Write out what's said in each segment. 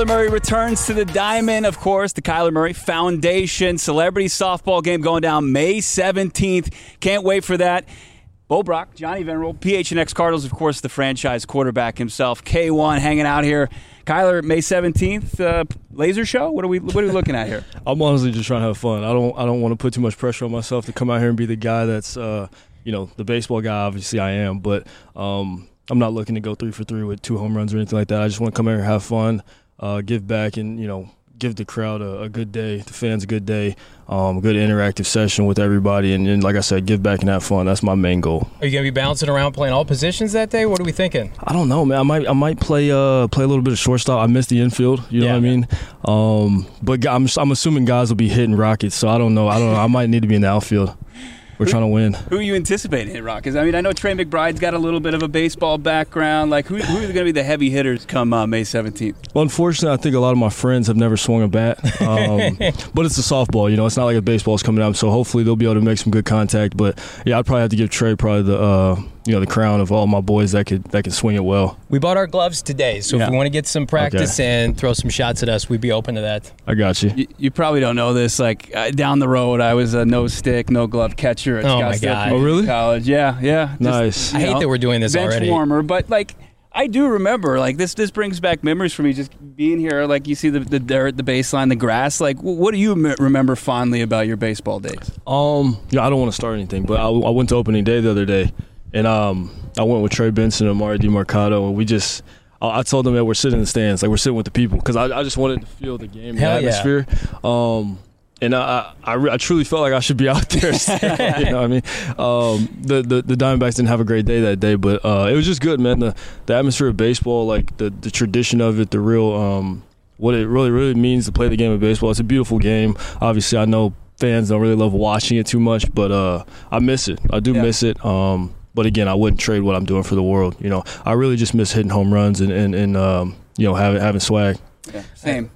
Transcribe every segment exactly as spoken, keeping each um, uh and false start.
Kyler Murray returns to the Diamond, of course, the Kyler Murray Foundation celebrity softball game going down May seventeenth. Can't wait for that. Bo Brock, Johnny Venerable, P H N X Cardinals, of course, the franchise quarterback himself, K one, hanging out here. Kyler, May seventeenth, uh, laser show? What are we What are we looking at here? I'm honestly just trying to have fun. I don't I don't want to put too much pressure on myself to come out here and be the guy that's, uh, you know, the baseball guy. Obviously, I am, but um, I'm not looking to go three for three with two home runs or anything like that. I just want to come out here and have fun, uh, give back, and, you know, give the crowd a, a good day, the fans a good day, um, a good interactive session with everybody, and, and like I said, give back and have fun. That's my main goal. Are you going to be bouncing around playing all positions that day? What are we thinking? I don't know, man. I might I might play uh, play a little bit of shortstop. I missed the infield, you know yeah, what I mean? Um, but I'm I'm assuming guys will be hitting rockets, so I don't know. I don't know. I might need to be in the outfield. We're trying to win. Who are you anticipating hit Rockets? I mean, I know Trey McBride's got a little bit of a baseball background. Like, who, who are going to be the heavy hitters come uh, May seventeenth? Well, unfortunately, I think a lot of my friends have never swung a bat. Um, but it's a softball, you know. It's not like a baseball's coming up, so hopefully they'll be able to make some good contact. But, yeah, I'd probably have to give Trey probably the uh, you know, the crown of all my boys that could that could swing it well. We bought our gloves today, so yeah. if you want to get some practice okay. and throw some shots at us, we'd be open to that. I got you. You, you probably don't know this. Like, uh, down the road, I was a no-stick, no-glove catcher at oh my God. Oh, really? College. Yeah, yeah. Just, nice. I hate know, that we're doing this bench already. warmer, but, like, I do remember, like, this this brings back memories for me, just being here. Like, you see the, the dirt, the baseline, the grass. Like, what do you m- remember fondly about your baseball days? Um, yeah, I don't want to start anything, but I, I went to opening day the other day, and um, I went with Trey Benson and Amari DiMarcado, and we just – I told them that we're sitting in the stands, like we're sitting with the people, because I, I just wanted to feel the game, the Hell atmosphere. Yeah. Um, and I, I, I truly felt like I should be out there. Still, you know what I mean? Um, the, the the Diamondbacks didn't have a great day that day, but uh, it was just good, man. The the atmosphere of baseball, like the, the tradition of it, the real um, what it really really means to play the game of baseball. It's a beautiful game. Obviously, I know fans don't really love watching it too much, but uh, I miss it. I do yeah. miss it. Um, but again, I wouldn't trade what I'm doing for the world. You know, I really just miss hitting home runs and and, and um, you know having having swag. Yeah, same.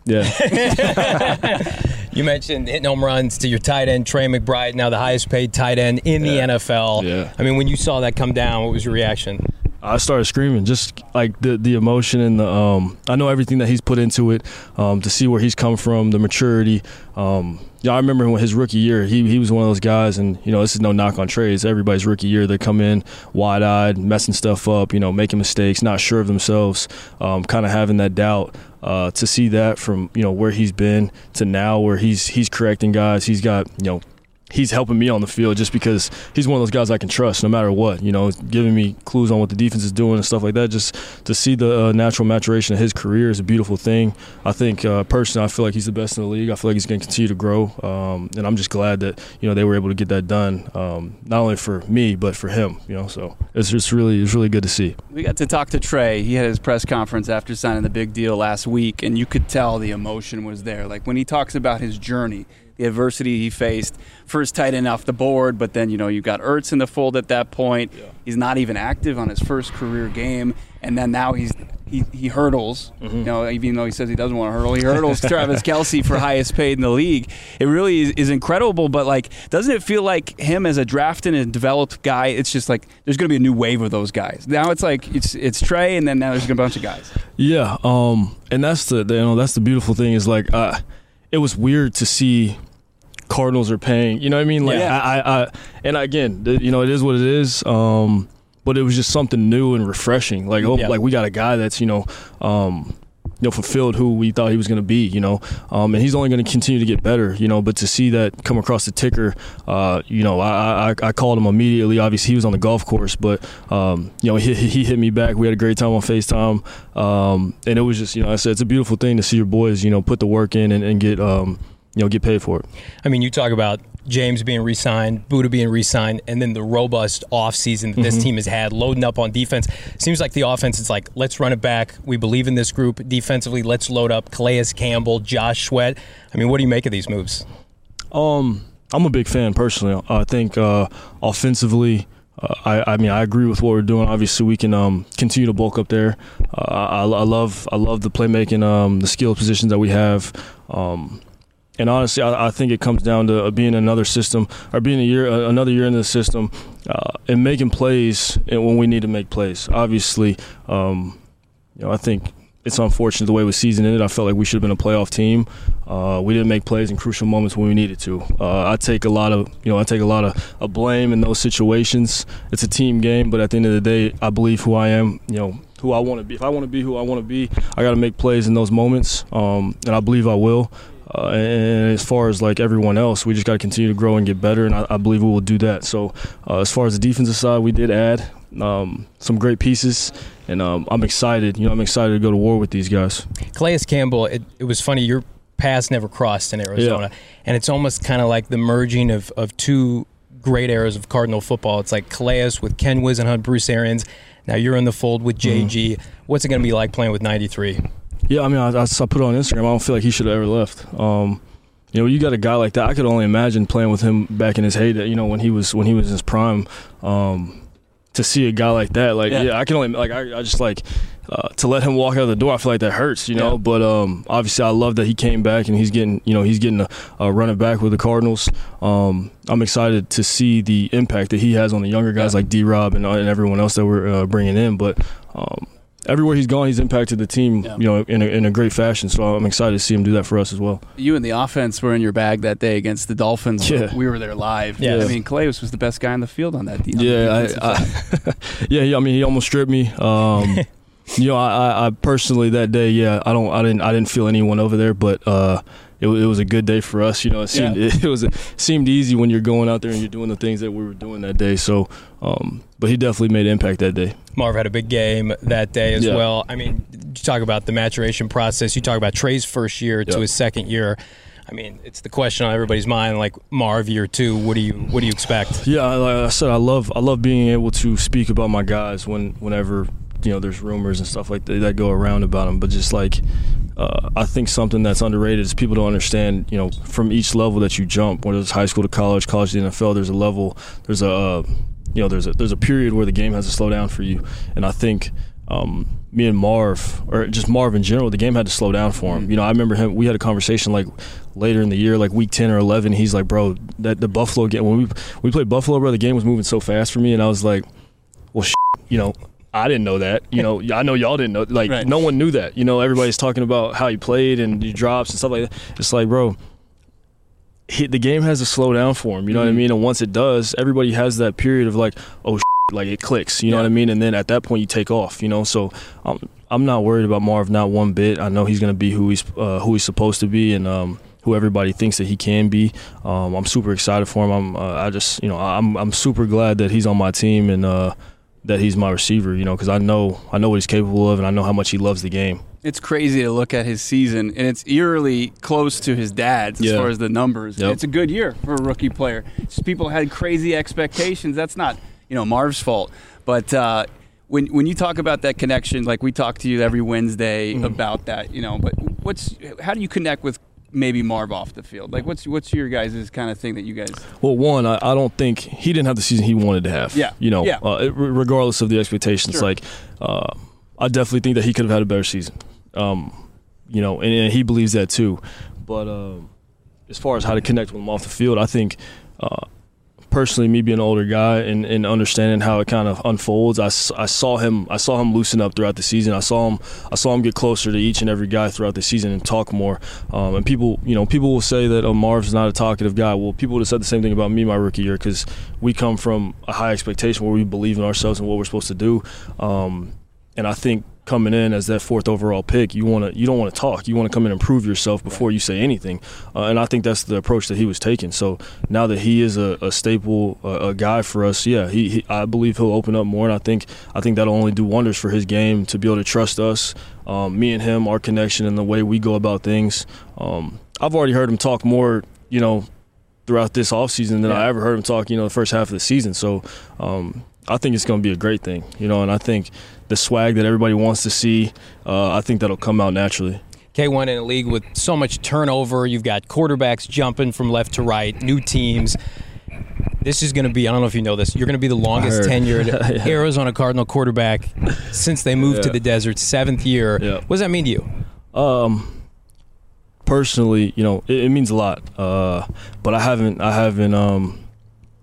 Yeah. You mentioned hitting home runs to your tight end, Trey McBride, now the highest paid tight end in the yeah. N F L. Yeah. I mean, when you saw that come down, what was your reaction? I started screaming, just like the the emotion and the um, I know everything that he's put into it, um, to see where he's come from, the maturity. Um, yeah, I remember when his rookie year, he he was one of those guys, and you know this is no knock on Trey. It's everybody's rookie year. They come in wide eyed, messing stuff up, you know, making mistakes, not sure of themselves, um, kind of having that doubt. Uh, to see that from you know where he's been to now, where he's he's correcting guys, he's got you know. He's helping me on the field just because he's one of those guys I can trust no matter what, you know, giving me clues on what the defense is doing and stuff like that. Just to see the uh, natural maturation of his career is a beautiful thing. I think uh, personally I feel like he's the best in the league. I feel like he's going to continue to grow, um, and I'm just glad that, you know, they were able to get that done, um, not only for me but for him, you know, so it's just really it's really good to see. We got to talk to Trey. He had his press conference after signing the big deal last week, and you could tell the emotion was there. Like when he talks about his journey, the adversity he faced, first tight end off the board, but then, you know, you got Ertz in the fold at that point. Yeah. He's not even active on his first career game, and then now he's he, he hurdles. Mm-hmm. You know, even though he says he doesn't want to hurdle, he hurdles Travis Kelce for highest paid in the league. It really is, is incredible, but, like, doesn't it feel like him as a drafted and developed guy, it's just like there's going to be a new wave of those guys. Now it's like it's it's Trey, and then now there's a bunch of guys. Yeah, um, and that's the, the you know that's the beautiful thing is, like, uh, it was weird to see Cardinals are paying, you know what I mean? Like, yeah. I, I, I, and again, you know, it is what it is. Um, but it was just something new and refreshing. Like, oh, yeah. like we got a guy that's, you know, um, you know, fulfilled who we thought he was going to be, you know, um, and he's only going to continue to get better, you know. But to see that come across the ticker, uh, you know, I, I, I called him immediately. Obviously, he was on the golf course, but um, you know, he, he hit me back. We had a great time on FaceTime, um, and it was just, you know, I said it's a beautiful thing to see your boys, you know, put the work in and, and get. Um, you know, get paid for it. I mean, you talk about James being re-signed, Buddha being re-signed, and then the robust offseason that this mm-hmm. team has had, loading up on defense. Seems like the offense is like, let's run it back. We believe in this group. Defensively, let's load up Calais Campbell, Josh Sweat. I mean, what do you make of these moves? Um, I'm a big fan, personally. I think uh, offensively, Uh, I, I mean, I agree with what we're doing. Obviously, we can um, continue to bulk up there. Uh, I, I love, I love the playmaking, um, the skill positions that we have. Um, and honestly, I, I think it comes down to being another system, or being a year, uh, another year in the system, uh, and making plays when we need to make plays. Obviously, um, you know, I think it's unfortunate the way the season ended. I felt like we should have been a playoff team. Uh, we didn't make plays in crucial moments when we needed to. Uh, I take a lot of, you know, I take a lot of, of blame in those situations. It's a team game, but at the end of the day, I believe who I am. You know, who I want to be. If I want to be who I want to be, I got to make plays in those moments, um, and I believe I will. Uh, and as far as like everyone else, we just got to continue to grow and get better, and I, I believe we will do that. So, uh, as far as the defensive side, we did add um, some great pieces. And um, I'm excited. You know, I'm excited to go to war with these guys. Calais Campbell, it, it was funny. Your paths never crossed in Arizona. Yeah. And it's almost kind of like the merging of, of two great eras of Cardinal football. It's like Calais with Ken Whisenhunt, Bruce Arians. Now you're in the fold with J G. Mm-hmm. What's it going to be like playing with ninety-three? Yeah, I mean, I, I put it on Instagram. I don't feel like he should have ever left. Um, you know, you got a guy like that. I could only imagine playing with him back in his heyday, you know, when he was when he was in his prime. Um To see a guy like that, like yeah, yeah I can only like I, I just like uh, to let him walk out the door. I feel like that hurts, you know. Yeah. But um, obviously, I love that he came back and he's getting, you know, he's getting a, a running back with the Cardinals. Um, I'm excited to see the impact that he has on the younger guys yeah. like D-Rob and, and everyone else that we're uh, bringing in. But um, everywhere he's gone, he's impacted the team, yeah. you know, in a, in a great fashion. So I'm excited to see him do that for us as well. You and the offense were in your bag that day against the Dolphins. Yeah. We were there live. Yeah. I mean, Calais was the best guy on the field on that defense. Yeah, I, I, yeah. I mean, he almost stripped me. Um, you know, I, I personally that day, yeah, I don't, I didn't, I didn't feel anyone over there, but uh, it, it was a good day for us. You know, it seemed yeah. it, it was it seemed easy when you're going out there and you're doing the things that we were doing that day. So, um, but he definitely made an impact that day. Marv had a big game that day as yeah. well. I mean, you talk about the maturation process. You talk about Trey's first year to yep. his second year. I mean, it's the question on everybody's mind. Like Marv, year two, what do you what do you expect? Yeah, like I said, I love I love being able to speak about my guys when whenever you know there's rumors and stuff like that that go around about them. But just like uh, I think something that's underrated is people don't understand. You know, from each level that you jump, whether it's high school to college, college to the N F L, there's a level, there's a uh, you know, there's a there's a period where the game has to slow down for you, and I think. Um, me and Marv, or just Marv in general, the game had to slow down for him. You know, I remember him. We had a conversation like later in the year, like week ten or eleven. He's like, "Bro, that the Buffalo game when we we played Buffalo, bro, the game was moving so fast for me." And I was like, "Well, shit, you know, I didn't know that. You know, I know y'all didn't know. Like, right. no one knew that. You know, everybody's talking about how he played and he drops and stuff like that. It's like, bro." He, the game has to slow down for him. You know mm-hmm. what I mean? And once it does, everybody has that period of like, "Oh." Like it clicks, you know yeah. what I mean? And then at that point you take off, you know? So um, I'm not worried about Marv, not one bit. I know he's going to be who he's uh, who he's supposed to be and um, who everybody thinks that he can be. Um, I'm super excited for him. I'm uh, I just, you know, I'm I'm super glad that he's on my team and uh, that he's my receiver, you know, because I know I know what he's capable of and I know how much he loves the game. It's crazy to look at his season, and it's eerily close to his dad's as yeah. far as the numbers. Yep. It's a good year for a rookie player. Just people had crazy expectations. That's not you know Marv's fault, but uh, when when you talk about that connection, like we talk to you every Wednesday mm-hmm. about that, you know. But what's how do you connect with maybe Marv off the field? Like what's what's your guys' kind of thing that you guys? Well, one, I, I don't think he didn't have the season he wanted to have. Yeah, you know, yeah. Uh, regardless of the expectations, sure. like uh, I definitely think that he could have had a better season. Um, you know, and, and he believes that too. But uh, as far as how to connect with him off the field, I think. Uh, Personally, me being an older guy and, and understanding how it kind of unfolds, I, I saw him. I saw him loosen up throughout the season. I saw him. I saw him get closer to each and every guy throughout the season and talk more. Um, and people, you know, people will say that oh, Marv's not a talkative guy. Well, people would have said the same thing about me my rookie year because we come from a high expectation where we believe in ourselves and what we're supposed to do. Um, and I think. Coming in as that fourth overall pick, you want to you don't want to talk. You want to come in and prove yourself before you say anything, uh, and I think that's the approach that he was taking. So now that he is a, a staple, uh, a guy for us, yeah, he, he I believe he'll open up more, and I think I think that'll only do wonders for his game to be able to trust us, um, me and him, our connection, and the way we go about things. Um, I've already heard him talk more, you know, throughout this offseason than yeah. I ever heard him talk, you know, the first half of the season. So. Um, I think it's going to be a great thing, you know, and I think the swag that everybody wants to see, uh, I think that'll come out naturally. K one in a league with so much turnover. You've got quarterbacks jumping from left to right, new teams. This is going to be, I don't know if you know this, you're going to be the longest tenured yeah. Arizona Cardinal quarterback since they moved yeah. to the desert, seventh year. Yeah. What does that mean to you? Um, personally, you know, it, it means a lot. Uh, but I haven't, I haven't, um,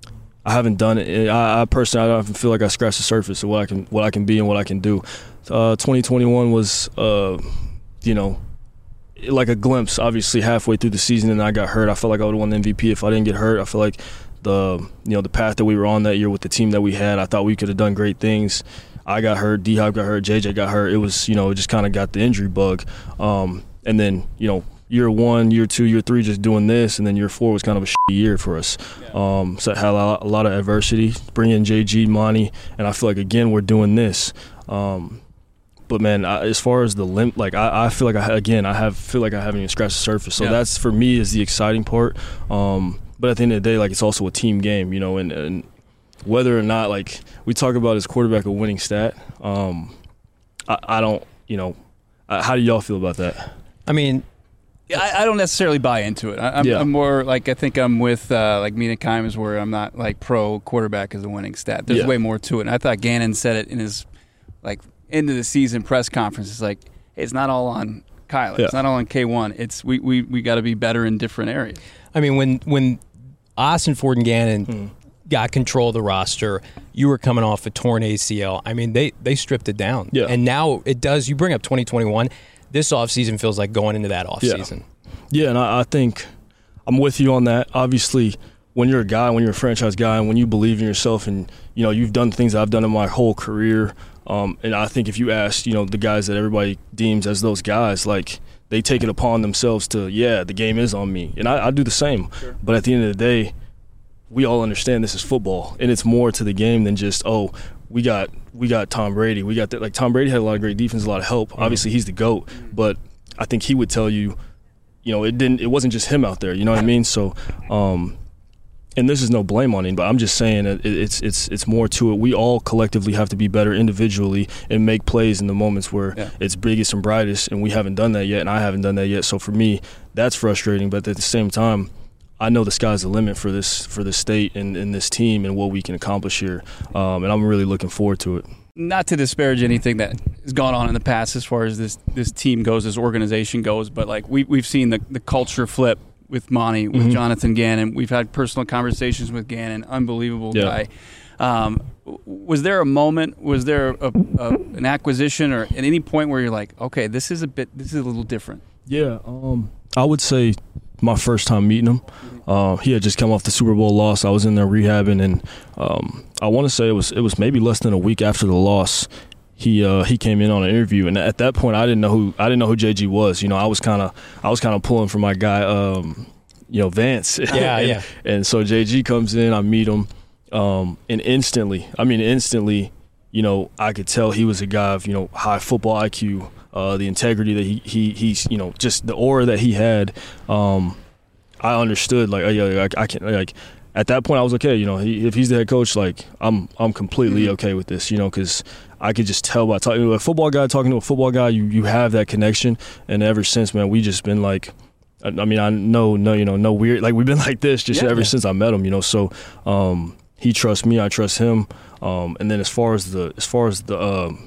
I haven't done it. I, I personally, I don't feel like I scratched the surface of what I can, what I can be and what I can do. Uh, twenty twenty-one was, uh, you know, like a glimpse. Obviously, halfway through the season, and I got hurt. I felt like I would have won the M V P if I didn't get hurt. I feel like the, you know, the path that we were on that year with the team that we had, I thought we could have done great things. I got hurt, D-Hop got hurt, J J got hurt. It was, you know, it just kind of got the injury bug. Um, and then, you know, year one, year two, year three, just doing this, and then year four was kind of a shitty year for us. Yeah. Um, so it had a lot, a lot of adversity. Bring in J G, Monty, and I feel like, again, we're doing this. Um, but, man, I, as far as the limp, like, I, I feel like, I again, I have feel like I haven't even scratched the surface. So yeah. That's, for me, is the exciting part. Um, but at the end of the day, like, it's also a team game, you know, and, and whether or not, like, we talk about as quarterback a winning stat, um, I, I don't, you know, uh, how do y'all feel about that? I mean, I, I don't necessarily buy into it. I, I'm, yeah. I'm more like, I think I'm with uh, like Mina Kimes, where I'm not like pro quarterback as a winning stat. There's yeah. way more to it. And I thought Gannon said it in his like end of the season press conference. It's like, it's not all on Kyler. Yeah. It's not all on K one. It's we we, we got to be better in different areas. I mean, when when Austin Ford and Gannon mm. got control of the roster, you were coming off a torn A C L. I mean, they they stripped it down. Yeah. And now it does. You bring up twenty twenty-one. This offseason feels like going into that offseason. Yeah. yeah, and I, I think I'm with you on that. Obviously, when you're a guy, when you're a franchise guy, and when you believe in yourself, and you know you've done things that I've done in my whole career, um, and I think if you ask, you know, the guys that everybody deems as those guys, like they take it upon themselves to, yeah, the game is on me, and I, I do the same. Sure. But at the end of the day, we all understand this is football, and it's more to the game than just, oh, we got we got Tom Brady. We got that. Like, Tom Brady had a lot of great defense, a lot of help. Mm-hmm. Obviously, he's the GOAT, but I think he would tell you, you know, it didn't. It wasn't just him out there. You know what I mean? So, um, and this is no blame on him, but I'm just saying that it, it's it's it's more to it. We all collectively have to be better individually and make plays in the moments where yeah. it's biggest and brightest, and we haven't done that yet, and I haven't done that yet. So for me, that's frustrating. But at the same time, I know the sky's the limit for this for this state and, and this team and what we can accomplish here, um, and I'm really looking forward to it. Not to disparage anything that has gone on in the past as far as this this team goes, this organization goes, but like we we've seen the the culture flip with Monty, with mm-hmm. Jonathan Gannon. We've had personal conversations with Gannon, unbelievable yeah. guy. Um, was there a moment? Was there a, a, an acquisition or at any point where you're like, okay, this is a bit, this is a little different? Yeah, um, I would say my first time meeting him. Uh, he had just come off the Super Bowl loss. I was in there rehabbing, and um, I want to say it was it was maybe less than a week after the loss. He uh, he came in on an interview, and at that point, I didn't know who I didn't know who J G was. You know, I was kind of I was kind of pulling for my guy, um, you know, Vance. Yeah, and, yeah. And so J G comes in, I meet him, um, and instantly, I mean, instantly, you know, I could tell he was a guy of, you know, high football I Q, uh, the integrity that he he he's you know just the aura that he had. Um, I understood, like, oh, yeah, I, I can't, like, at that point I was okay, you know, he, if he's the head coach, like, I'm I'm completely okay with this, you know, because I could just tell by talking to a football guy, talking to a football guy, you, you have that connection, and ever since, man, we just been like, I, I mean, I know, no, you know, no weird, like, we've been like this just yeah, ever yeah. since I met him, you know, so um, he trusts me, I trust him, um, and then as far as the, as far as the, um,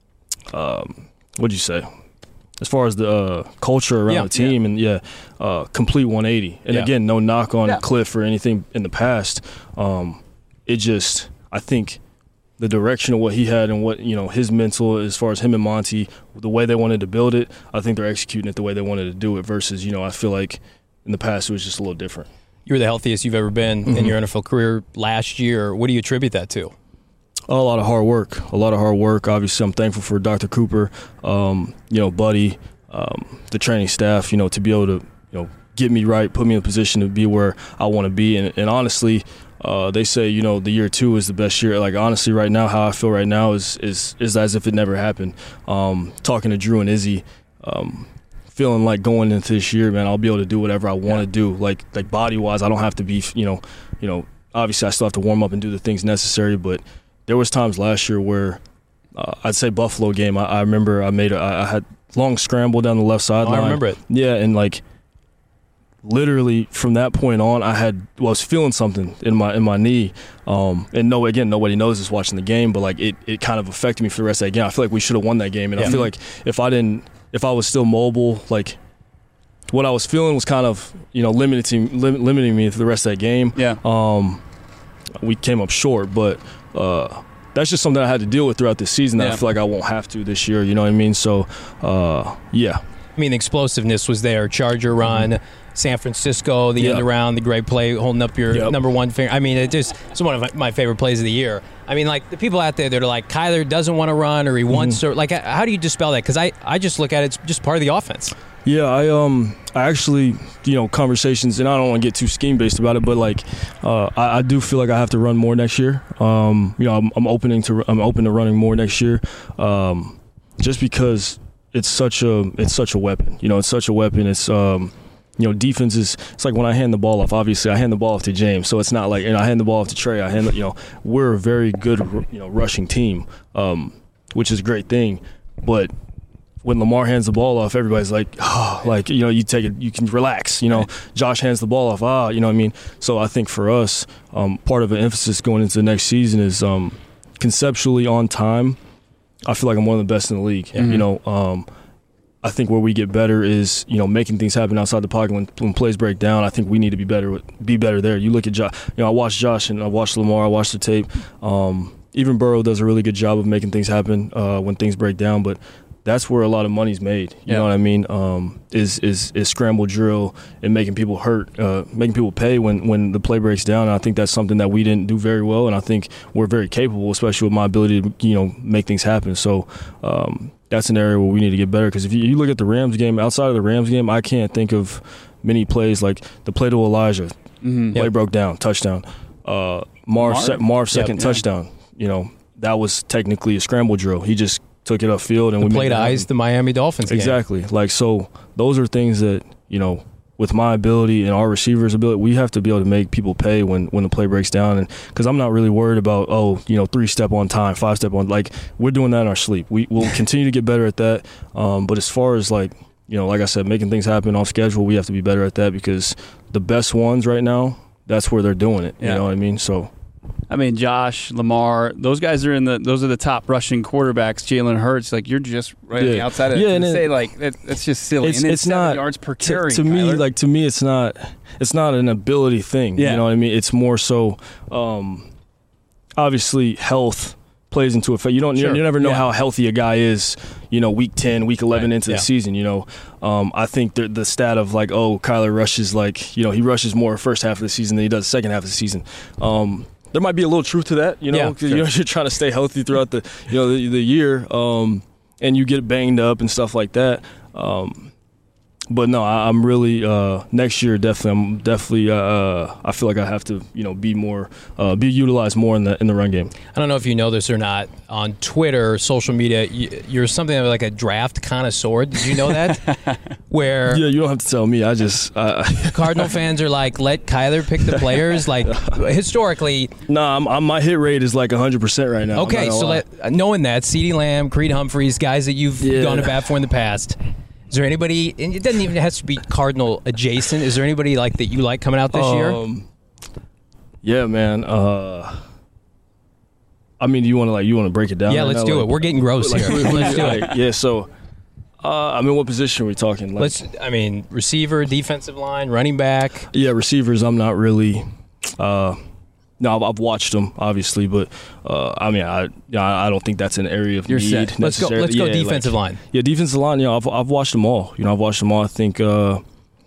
um, what'd you say? As far as the uh, culture around yeah, the team, yeah. and yeah, uh, complete one eighty. And yeah. again, no knock on yeah. Cliff or anything in the past. Um, it just, I think, the direction of what he had and what, you know, his mental, as far as him and Monty, the way they wanted to build it, I think they're executing it the way they wanted to do it. Versus, you know, I feel like in the past it was just a little different. You were the healthiest you've ever been mm-hmm. in your N F L career last year. What do you attribute that to? A lot of hard work, a lot of hard work. Obviously, I'm thankful for Doctor Cooper, um, you know, Buddy, um, the training staff, you know, to be able to, you know, get me right, put me in a position to be where I want to be. And, and honestly, uh, they say, you know, the year two is the best year. Like, honestly, right now, how I feel right now is is is as if it never happened. Um, talking to Drew and Izzy, um, feeling like going into this year, man, I'll be able to do whatever I want to do. Like, like body-wise, I don't have to be, you know, you know, obviously I still have to warm up and do the things necessary, but there was times last year where uh, I'd say Buffalo game. I, I remember I made a, I had long scramble down the left sideline. Oh, I remember it. Yeah, and like literally from that point on, I had well, I was feeling something in my in my knee. Um, and no, again, nobody knows this watching the game, but like it, it kind of affected me for the rest of that game. I feel like we should have won that game, and yeah. I feel like if I didn't, if I was still mobile, like what I was feeling was kind of, you know, limiting lim- limiting me for the rest of that game. Yeah. Um, we came up short, but uh, that's just something I had to deal with throughout the season that Yeah. I feel like I won't have to this year. You know what I mean? So, uh, yeah. I mean, the explosiveness was there. Charger run, San Francisco, the Yeah. end around, the great play, holding up your Yep. number one finger. I mean, it just it's one of my favorite plays of the year. I mean, like the people out there that are like, Kyler doesn't want to run or he wants to. Like, how do you dispel that? Because I, I just look at it, it's just part of the offense. Yeah, I um I actually you know conversations, and I don't want to get too scheme based about it, but like uh, I, I do feel like I have to run more next year. Um, you know, I'm, I'm opening to I'm open to running more next year, um, just because it's such a it's such a weapon. You know, it's such a weapon. It's um. You know, defense is, it's like when I hand the ball off, obviously I hand the ball off to James. So it's not like, and I hand the ball off to Trey. I hand, you know, we're a very good, you know, rushing team, um, which is a great thing. But when Lamar hands the ball off, everybody's like, oh, like, you know, you take it, you can relax. You know, Josh hands the ball off, ah, you know what I mean? So I think for us, um, part of an emphasis going into the next season is um, conceptually on time. I feel like I'm one of the best in the league. Mm-hmm. You know, um, I think where we get better is, you know, making things happen outside the pocket when, when plays break down. I think we need to be better with, be better there. You look at Josh, you know, I watched Josh and I watched Lamar, I watched the tape. Um, even Burrow does a really good job of making things happen uh, when things break down, but that's where a lot of money's made. You Yeah. know what I mean? Um, is is is scramble drill and making people hurt, uh, making people pay when, when the play breaks down. And I think that's something that we didn't do very well, and I think we're very capable, especially with my ability to, you know, make things happen. So um, that's an area where we need to get better, because if you, you look at the Rams game, outside of the Rams game, I can't think of many plays like the play to Elijah. Mm-hmm. Play broke down, touchdown. Uh, Marv, Marv? se- Marv second Yep. touchdown. You know, that was technically a scramble drill. He just took it upfield and The we play made to it happen. ice the Miami Dolphins game. Exactly. Like, so those are things that, you know, with my ability and our receivers' ability, we have to be able to make people pay when, when the play breaks down. And because I'm not really worried about, oh, you know, three step on time, five step on, like, we're doing that in our sleep. We will continue to get better at that. Um, but as far as, like, you know, like I said, making things happen off schedule, we have to be better at that, because the best ones right now, that's where they're doing it. Yeah. You know what I mean? So. I mean, Josh, Lamar, those guys are in the. Those are the top rushing quarterbacks. Jalen Hurts, like you're just right on the Yeah. outside of Yeah, it. and To it- say like that, that's just silly. It's, and it's seven not yards per to, carry. to me. Kyler. Like to me, it's not. It's not an ability thing. Yeah. You know what I mean? It's more so. Um, obviously, health plays into effect. You don't. Sure. You, you never know Yeah. how healthy a guy is. You know, week ten, week eleven Right. into Yeah. the season. You know, um, I think the, the stat of like, oh, Kyler rushes like, you know, he rushes more first half of the season than he does second half of the season. Um, there might be a little truth to that, you know, Yeah, 'cause, sure. you know, you're trying to stay healthy throughout the, you know, the, the year, um, and you get banged up and stuff like that. Um, but no, I, I'm really uh, next year definitely. I'm definitely. Uh, I feel like I have to, you know, be more, uh, be utilized more in the in the run game. I don't know if you know this or not. On Twitter, social media, you- you're something like a draft connoisseur. Did you know that? Where Yeah, you don't have to tell me. I just, uh, Cardinal fans are like, let Kyler pick the players. Like historically, nah, I'm, I'm, my hit rate is like one hundred percent right now. I'm okay. not gonna So lie. let, knowing that, CeeDee Lamb, Creed Humphreys, guys that you've Yeah. gone to bat for in the past. Is there anybody? And it doesn't even have to be Cardinal adjacent. Is there anybody like that you like coming out this year? Um, yeah, man. Uh, I mean, do you want to like you want to break it down? Yeah, right let's now? do Like, it. We're getting gross like, here. who- who- Let's do it. like, yeah. So, uh, I mean, what position are we talking? Like, Let's. I mean, receiver, defensive line, running back. yeah, receivers. I'm not really. Uh, no, I've, I've watched them obviously, but uh, I mean, I I don't think that's an area of You're need. set. Let's go. necessarily. Let's go. Yeah, Defensive like, line. Yeah, defensive line. You know, I've I've watched them all. You know, I've watched them all. I think, uh,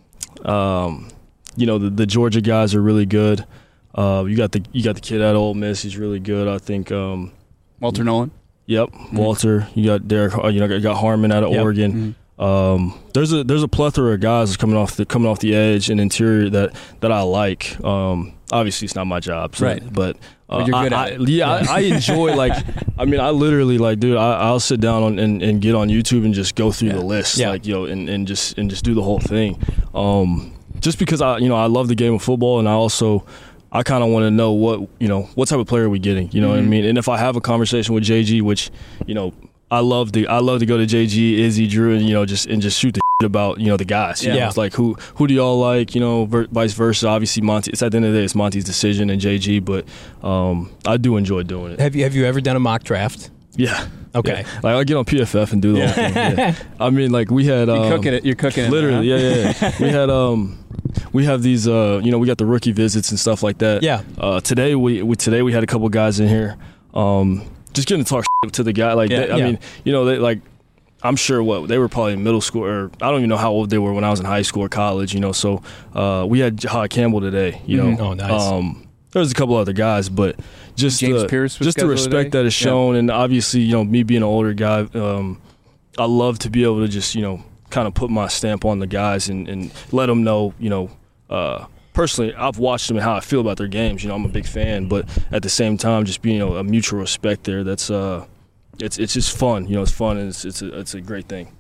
um, you know, the, the Georgia guys are really good. Uh, you got the you got the kid at Ole Miss. He's really good. I think. Um, Walter Nolan. Yep, Walter. You got Derek. uh, You know, you got Harmon out of Yep. Oregon. Um, there's a there's a plethora of guys that's coming off the coming off the edge and interior that that I like. Um, obviously, it's not my job, so, Right. But, uh, But you're good I, at I, it. Yeah, I, I enjoy like. I mean, I literally like, dude. I, I'll sit down on, and, and get on YouTube and just go through Yeah. the list, Yeah. like yo, and, and just and just do the whole thing. Um, just because I you know I love the game of football, and I also. I kind of want to know what you know what type of player are we getting, you know what I Mhm. mean? And if I have a conversation with J G, which you know I love to I love to go to J G, Izzy, Drew, and you know just and just shoot the shit about you know the guys. You Yeah. know, it's like who who do y'all like? You know, ver- vice versa. Obviously, Monty. It's at the end of the day, it's Monty's decision and J G, but um, I do enjoy doing it. Have you Have you ever done a mock draft? Yeah. Okay. Yeah. Like I get on P F F and do the whole thing. Yeah. I mean, like we had. Um, You're cooking it. You're cooking it. Literally, huh? yeah, yeah, yeah. We had um, we have these, uh, you know, we got the rookie visits and stuff like that. Yeah. Uh, today we, we today we had a couple guys in here, um, just getting to talk shit to the guy. Like, Yeah, they, I yeah. mean, you know, they like. I'm sure what they were probably in middle school, or I don't even know how old they were when I was in high school or college. You know, so uh, we had Jahad Campbell today. You know, Mm-hmm. Oh, nice. Um, there was a couple other guys, but just James the, Pierce was just the scheduled respect today? that is shown, and obviously, you know, me being an older guy, um, I love to be able to just, you know, kind of put my stamp on the guys and, and let them know, you know, uh, personally, I've watched them and how I feel about their games. You know, I'm a big fan, but at the same time, just being, you know, a mutual respect there. That's uh, it's it's just fun. You know, it's fun and it's it's a, it's a great thing.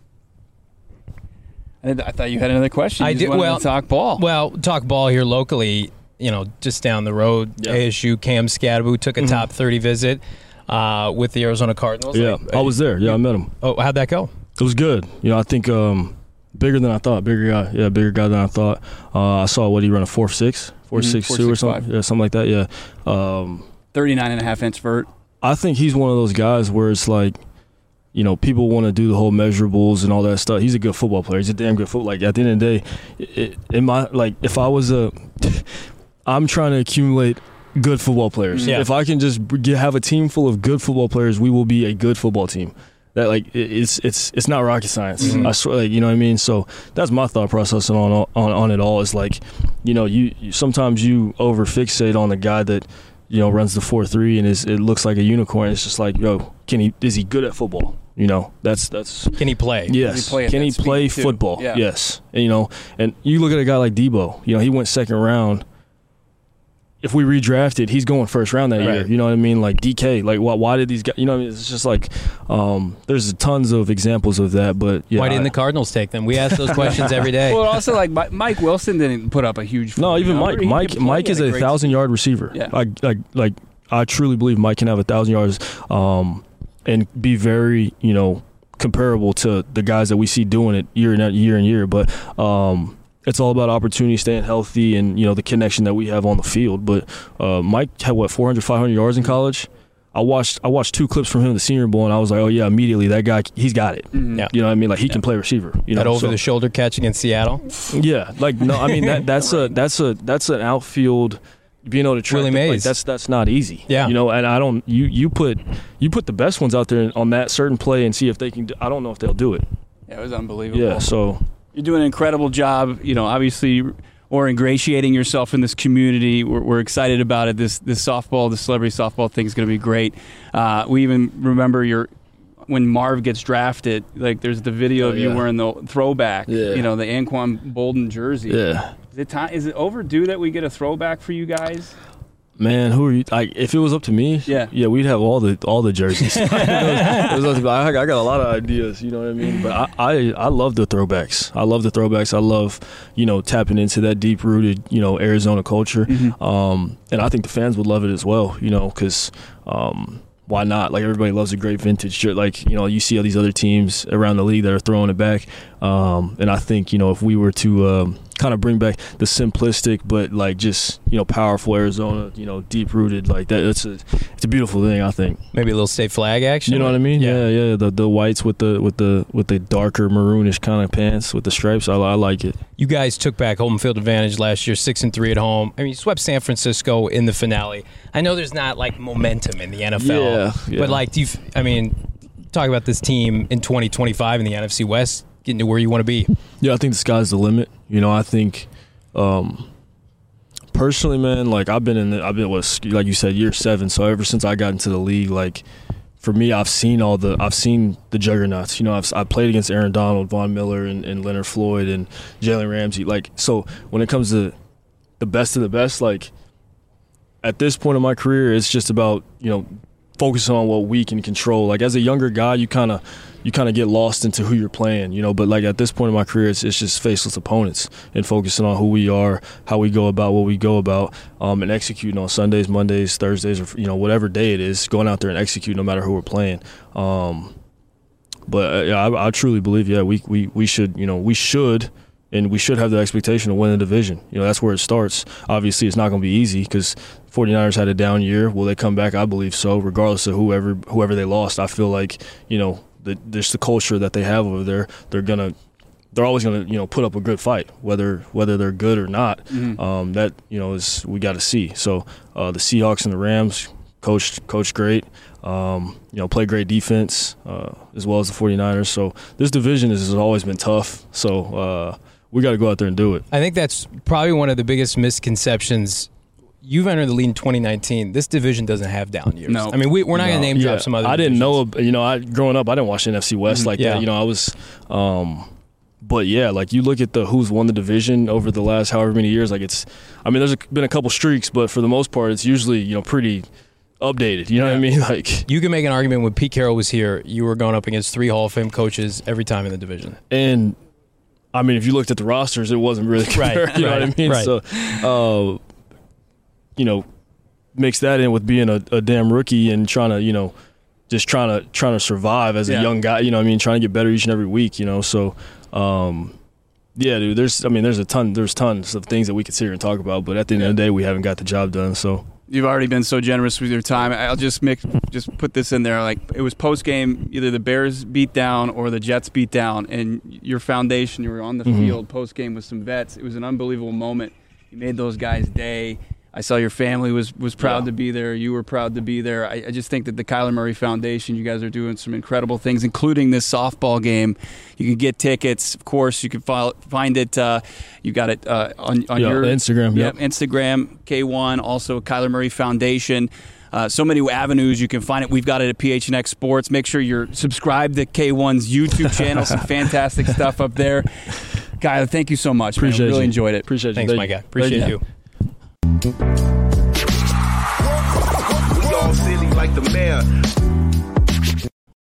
I I thought you had another question. You I just did- wanted well- to talk ball. Well, talk ball here locally, you know, just down the road, Yeah. A S U, Cam Scadaboo took a Mhm. top thirty visit uh, with the Arizona Cardinals. Yeah, Like, I was there. Yeah, I met him. Oh, how'd that go? It was good. You know, I think um, bigger than I thought. Bigger guy. Yeah, bigger guy than I thought. Uh, I saw what he ran a four six, four Mhm, six four two or six something. five. Yeah, something like that. Yeah. Um, thirty-nine and a half inch vert. I think he's one of those guys where it's like, you know, people want to do the whole measurables and all that stuff. He's a good football player. He's a damn good football. Like at the end of the day, it, in my like, if I was a, I'm trying to accumulate good football players. Yeah. If I can just get, have a team full of good football players, we will be a good football team. That like it, it's it's it's not rocket science. Mhm. I swear, like, you know what I mean. So that's my thought process on on on it all. Is like, you know, you, you sometimes you over fixate on the guy that, you know, runs the four three and is it looks like a unicorn. It's just like, yo, can he is he good at football? You know, that's that's Can he play? yes. he play at Can that he speed, play too? football? Yeah. Yes. And, you know, and you look at a guy like Debo. You know, he went second round. If we redrafted, he's going first round that Right. year. You know what I mean? Like D K. Like, why, why did these guys? You know what I mean? It's just like, um, there's tons of examples of that. But yeah, Why didn't I- the Cardinals take them? We ask those questions every day. Well, also like Mi- Mike Wilson didn't put up a huge. No, even number. Mike. He Mike. could play. Mike He is had a great thousand yard receiver. Yeah. Like, like, like, I truly believe Mike can have a thousand yards, um, and be very, you know, comparable to the guys that we see doing it year and year and year. But um, it's all about opportunity, staying healthy, and you know the connection that we have on the field. But uh, Mike had what four hundred, five hundred yards in college. I watched I watched two clips from him in the Senior Bowl, and I was like, oh yeah, immediately that guy, he's got it. Mhm. Yeah. You know what I mean? Like he can play receiver. You know, that over so- the shoulder catch against Seattle. yeah, like no, I mean that that's a that's a that's an outfield being able to track Willie the- like, Mays. that's that's not easy. Yeah. you know, and I don't you you put you put the best ones out there on that certain play and see if they can. Do, I don't know if they'll do it. Yeah, it was unbelievable. Yeah, so You're doing an incredible job. You know, obviously, or ingratiating yourself in this community. We're, we're excited about it. This this softball, the celebrity softball thing is going to be great. Uh, we even remember your when Marv gets drafted. Like, there's the video Oh, of you yeah. wearing the throwback. Yeah. You know, the Anquan Bolden jersey. yeah. Is it time? Is it overdue that we get a throwback for you guys? Man, who are you? Like, if it was up to me, Yeah. yeah, we'd have all the all the jerseys. It was- it was up to me. I, I got a lot of ideas, you know what I mean. But I, I I love the throwbacks. I love the throwbacks. I love, you know, tapping into that deep rooted, you know, Arizona culture. Mhm. Um, and I think the fans would love it as well, you know, because um, why not? Like, everybody loves a great vintage shirt. Like, you know, you see all these other teams around the league that are throwing it back. Um, and I think, you know, if we were to um, kind of bring back the simplistic but like just, you know, powerful Arizona, you know, deep rooted like that, it's a it's a beautiful thing, I think. Maybe a little state flag action. You know what I mean? Yeah, yeah. The the whites with the with the with the darker maroonish kind of pants with the stripes. I, I like it. You guys took back home field advantage last year, six and three at home. I mean, you swept San Francisco in the finale. I know there's not like momentum in the N F L, Yeah, yeah. but like, do you? f- I mean, talk about this team in twenty twenty-five in the N F C West, getting to where you want to be. Yeah, I think the sky's the limit. You know, I think um, personally, man, like I've been in the, I've been what like you said, year seven. So ever since I got into the league, like for me, I've seen all the I've seen the juggernauts. You know, I've I played against Aaron Donald, Von Miller, and, and Leonard Floyd, and Jalen Ramsey. Like, so when it comes to the best of the best, like at this point in my career, it's just about, you know, focusing on what we can control. Like as a younger guy, you kind of you kind of get lost into who you're playing, you know. But like at this point in my career, it's, it's just faceless opponents and focusing on who we are, how we go about what we go about, um, and executing on Sundays, Mondays, Thursdays, or you know whatever day it is, going out there and execute no matter who we're playing. Um, but uh, yeah, I, I truly believe, yeah, we we we should, you know, we should. And we should have the expectation to win the division. You know, that's where it starts. Obviously, it's not going to be easy because 49ers had a down year. Will they come back? I believe so, regardless of whoever whoever they lost. I feel like, you know, the, just the culture that they have over there, they're going to they're always going to, you know, put up a good fight, whether whether they're good or not. Mm-hmm. Um, that, you know, is we got to see. So uh, the Seahawks and the Rams coached coached great, um, you know, play great defense, uh, as well as the 49ers. So this division has always been tough. So uh, we got to go out there and do it. I think that's probably one of the biggest misconceptions. You've entered the league in twenty nineteen. This division doesn't have down years. No. I mean, we, we're not No. going to name Yeah, drop some other I didn't divisions. know, you know, I growing up, I didn't watch the N F C West like Yeah. that. You know, I was, um, but yeah, like you look at the who's won the division over the last however many years. Like it's, I mean, there's a, been a couple streaks, but for the most part, it's usually, you know, pretty updated. You know Yeah. what I mean? Like, You can make an argument when Pete Carroll was here, you were going up against three Hall of Fame coaches every time in the division. and I mean, if you looked at the rosters, it wasn't really compared. Right, You know right, what I mean? right. So, uh, you know, mix that in with being a, a damn rookie and trying to, you know, just trying to trying to survive as Yeah. a young guy. You know what I mean? Trying to get better each and every week. You know, so. Um, Yeah, dude. There's, I mean, there's a ton, there's tons of things that we could sit here and talk about, but at the end of the day, we haven't got the job done. So You've already been so generous with your time. I'll just make just put this in there. Like it was post game, either the Bears beat down or the Jets beat down, and your foundation, you were on the Mhm. field post game with some vets. It was an unbelievable moment. You made those guys' day. I saw your family was was proud Yeah. to be there. You were proud to be there. I, I just think that the Kyler Murray Foundation, you guys are doing some incredible things, including this softball game. You can get tickets, of course. You can file, find it. Uh, you got it uh, on on yeah, your Instagram. Yep, Yep. Instagram, K one, also Kyler Murray Foundation. Uh, so many avenues you can find it. We've got it at P H N X Sports. Make sure you're subscribed to K one's YouTube channel. Some fantastic stuff up there. Kyler, thank you so much. Appreciate man. Really you. enjoyed it. Appreciate you. Thanks, Thank my you. guy. Appreciate Thank you. We all silly like the mayor.